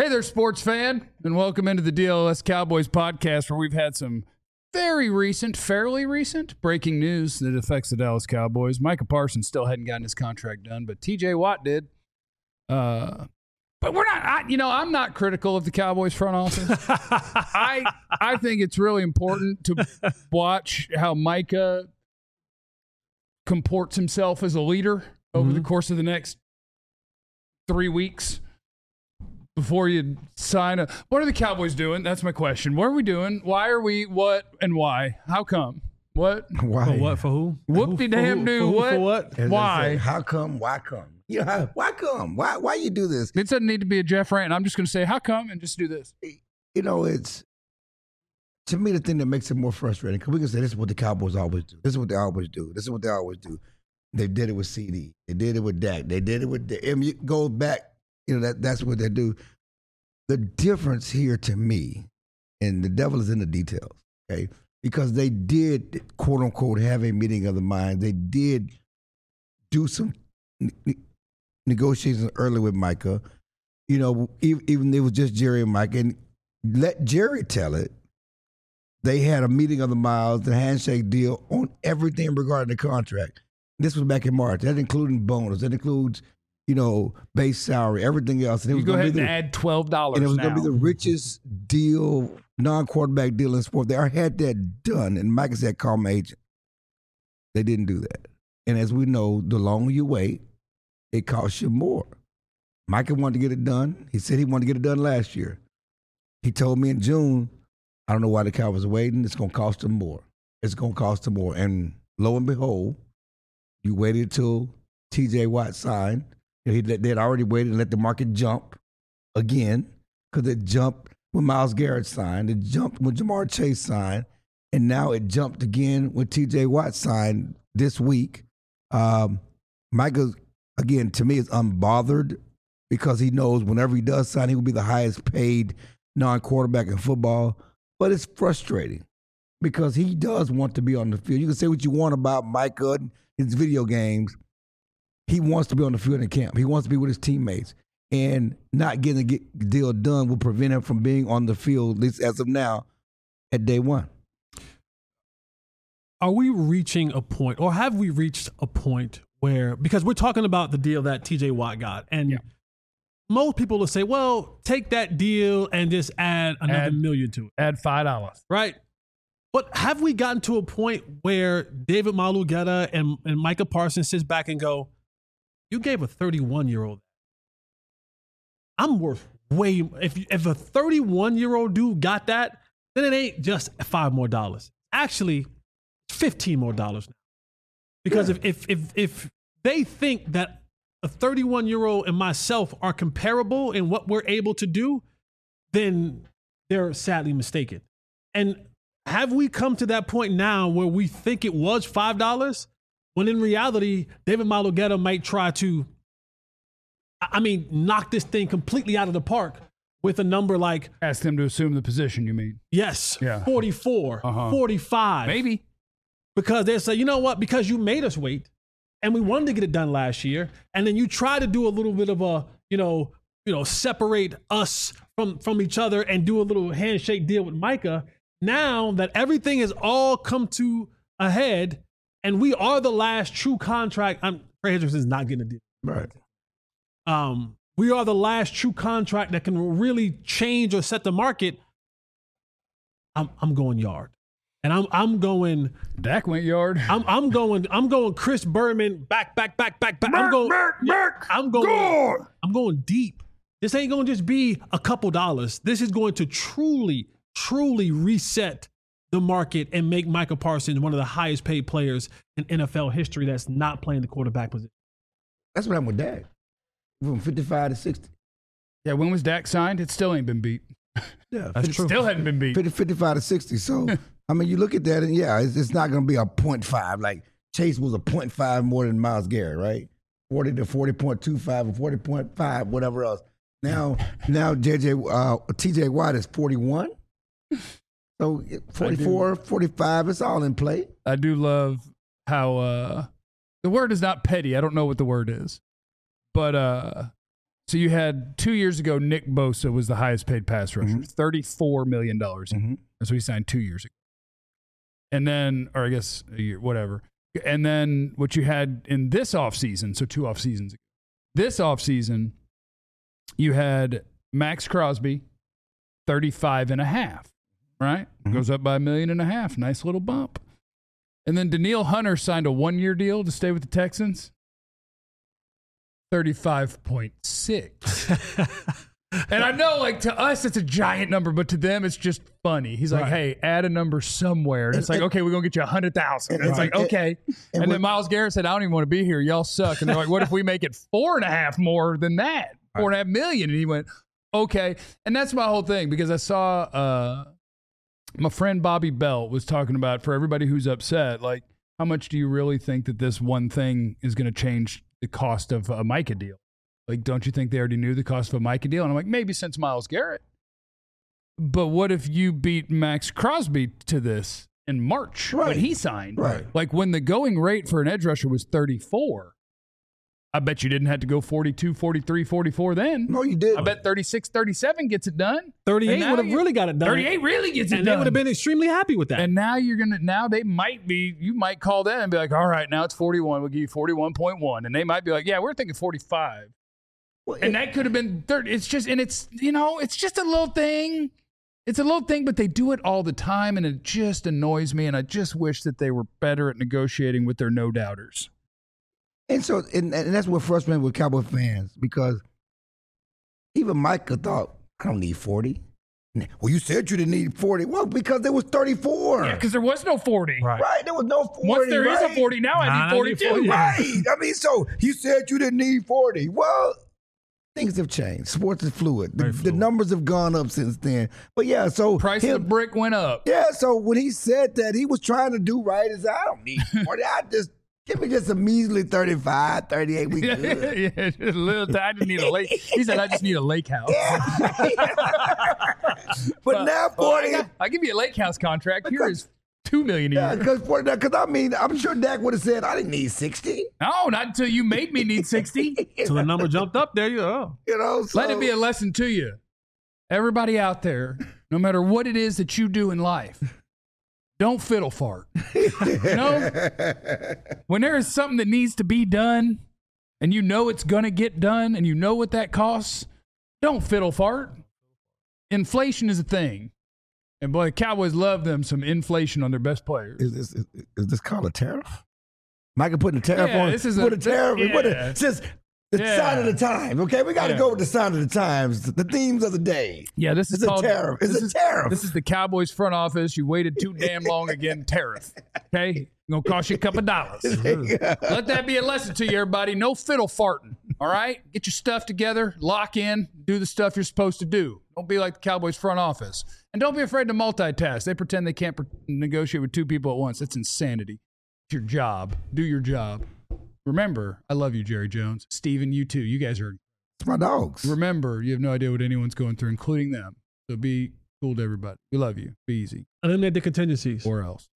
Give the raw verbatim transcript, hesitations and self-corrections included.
Hey there, sports fan, and welcome into the D L S Cowboys podcast, where we've had some very recent, fairly recent breaking news that affects the Dallas Cowboys. Micah Parsons still hadn't gotten his contract done, but T J Watt did. Uh, but we're not, I, you know, I'm not critical of the Cowboys front office. I I think it's really important to watch how Micah comports himself as a leader over mm-hmm. the course of the next three weeks. Before you sign a, what are the Cowboys doing? That's my question. What are we doing? Why are we? What and why? How come? What? Why? For what? For who? Whoop de damn do. What? For what? As why? Say, how come? Why come? Yeah. How, why come? Why? Why you do this? It doesn't need to be a Jeff rant. I'm just going to say how come and just do this. You know, it's to me the thing that makes it more frustrating because we can say this is what the Cowboys always do. This is what they always do. This is what they always do. They did it with C D. They did it with Dak. They did it with. I mean, it goes back. You know that that's what they do. The difference here to me, and the devil is in the details, okay? Because they did, quote unquote, have a meeting of the minds. They did do some ne- negotiations early with Micah. You know, even, even it was just Jerry and Micah. And let Jerry tell it. They had a meeting of the minds, the handshake deal on everything regarding the contract. This was back in March. That including bonus. That includes, you know, base salary, everything else. And it you was go ahead the, and add twelve dollars And it was going to be the richest deal, non-quarterback deal in sport. They already had that done. And Micah said, call my agent. They didn't do that. And as we know, the longer you wait, it costs you more. Micah wanted to get it done. He said he wanted to get it done last year. He told me in June, I don't know why the Cowboys are waiting. It's going to cost them more. It's going to cost them more. And lo and behold, you waited till T J Watt signed. He, they had already waited and let the market jump again because it jumped when Myles Garrett signed. It jumped when Jamar Chase signed. And now it jumped again when T J Watt signed this week. Um, Micah, again, to me, is unbothered because he knows whenever he does sign, he will be the highest paid non-quarterback in football. But it's frustrating because he does want to be on the field. You can say what you want about Micah and his video games. He wants to be on the field in camp. He wants to be with his teammates. And not getting the deal done will prevent him from being on the field, at least as of now, at day one. Are we reaching a point, or have we reached a point where, because we're talking about the deal that T J Watt got, and yeah. most people will say, well, take that deal and just add another add, million to it. Add five dollars. Right. But have we gotten to a point where David Malugetta and, and Micah Parsons sits back and go, you gave a thirty-one-year-old. I'm worth way – if if a thirty-one-year-old dude got that, then it ain't just five more dollars. Actually, fifteen more dollars now. Because yeah. if, if if if they think that a thirty-one-year-old and myself are comparable in what we're able to do, then they're sadly mistaken. And have we come to that point now where we think it was five dollars? When in reality, David Malugetta might try to, I mean, knock this thing completely out of the park with a number like... Ask them to assume the position, you mean? Yes, yeah. forty-four, uh-huh. forty-five. Maybe. Because they say, you know what? Because you made us wait, and we wanted to get it done last year, and then you try to do a little bit of a, you know, you know, separate us from, from each other and do a little handshake deal with Micah. Now that everything has all come to a head, and we are the last true contract. I'm Trey Hendrickson is not getting a deal. Right. Um, we are the last true contract that can really change or set the market. I'm I'm going yard, and I'm I'm going. Dak went yard. I'm I'm going. I'm going. Chris Berman back back back back back. Merk, I'm going. Merk, Merk, I'm going. Gore. I'm going deep. This ain't going to just be a couple dollars. This is going to truly, truly reset the market and make Micah Parsons one of the highest paid players in N F L history that's not playing the quarterback position. That's what happened with Dak. From fifty-five to sixty. Yeah, when was Dak signed? It still ain't been beat. Yeah, that's true. Still hadn't been beat. fifty, fifty-five to sixty. So, I mean, you look at that and yeah, it's, it's not going to be a point five. Like Chase was a point five more than Myles Garrett, right? forty to forty point two five or forty point five, whatever else. Now, now J J, uh, T J Watt is forty-one. So forty-four, forty-five, it's all in play. I do love how uh, the word is not petty. I don't know what the word is. But uh, So you had two years ago, Nick Bosa was the highest paid pass rusher, Mm-hmm. thirty-four million dollars. Mm-hmm. That's what he signed two years ago. And then, or I guess a year, whatever. And then what you had in this offseason, so two off seasons ago, this offseason, you had Max Crosby, thirty-five and a half, right? Mm-hmm. Goes up by a million and a half. Nice little bump. And then Danielle Hunter signed a one-year deal to stay with the Texans. thirty-five point six. And I know, like, to us, it's a giant number, but to them, it's just funny. He's like, Right. hey, add a number somewhere. And it's like, okay, we're going to get you one hundred thousand. And it's and- like, okay. and And then what- Myles Garrett said, I don't even want to be here. Y'all suck. And they're like, what if we make it four and a half more than that? Four and a half million. And he went, okay. And that's my whole thing, because I saw uh, my friend Bobby Belt was talking about, for everybody who's upset, like, how much do you really think that this one thing is going to change the cost of a Micah deal? Like, don't you think they already knew the cost of a Micah deal? And I'm like, maybe since Myles Garrett. But what if you beat Max Crosby to this in March Right. when he signed? Right. Like, when the going rate for an edge rusher was thirty-four, I bet you didn't have to go forty-two, forty-three, forty-four then. No, you didn't. I bet thirty-six, thirty-seven gets it done. thirty-eight And now would have you- really got it done. thirty-eight really gets it and done. they would have been extremely happy with that. And now you're gonna now they might be you might call them and be like, all right, now it's forty-one. We'll give you forty-one point one, and they might be like, yeah, we're thinking forty-five, Well, and that could have been thirty. It's just and it's you know it's just a little thing. It's a little thing, but they do it all the time, and it just annoys me. And I just wish that they were better at negotiating with their no doubters. And so, and, and that's what frustrates me with Cowboy fans, because even Micah thought, I don't need forty. Well, you said you didn't need forty. Well, because there was thirty-four. Yeah, because there was no forty. Right. Right, there was no forty. Once there is right? a forty, now I Nah, I need need forty-two. forty. Right. I mean, so you said you didn't need forty. Well, things have changed. Sports is fluid. The, Very the fluid. numbers have gone up since then. But yeah, so Price him- of the brick went up. yeah, so when he said that, he was trying to do right. He said, I don't need forty. I just give me just a measly thirty-five, thirty-eight. We Yeah, good. yeah, just a little. T- I just need a lake. He said, "I just need a lake house." But now Well, I forty. got- I'll give you a lake house contract. Here is two million a Yeah, year. because forty. Because I mean, I'm sure Dak would have said, I didn't need sixty. No, not until you made me need sixty. So the number jumped up. There you go. You know, so, Let it be a lesson to you, everybody out there. No matter what it is that you do in life, don't fiddle fart. You know, when there is something that needs to be done, and you know it's gonna get done, and you know what that costs, don't fiddle fart. Inflation is a thing. And boy, the Cowboys love them some inflation on their best players. Is this, is, is this called a tariff? Micah putting a tariff Yeah, on this is put a- a tariff. yeah. Put a, since the Yeah. sign of the time, okay? We got to Yeah. go with the sign of the times, the themes of the day. Yeah, this is It's a called tariff. It's this a is, tariff. This is the Cowboys front office. You waited too damn long again. Tariff. Okay, gonna cost you a couple dollars. Let that be a lesson to you, everybody. No fiddle farting. All right, get your stuff together, lock in, do the stuff you're supposed to do. Don't be like the Cowboys front office, and don't be afraid to multitask. They pretend they can't pre- negotiate with two people at once. That's insanity. It's your job. Do your job. Remember, I love you, Jerry Jones. Steven, you too. You guys are. It's my dogs. Remember, you have no idea what anyone's going through, including them. So be cool to everybody. We love you. Be easy. Eliminate the contingencies. Or else.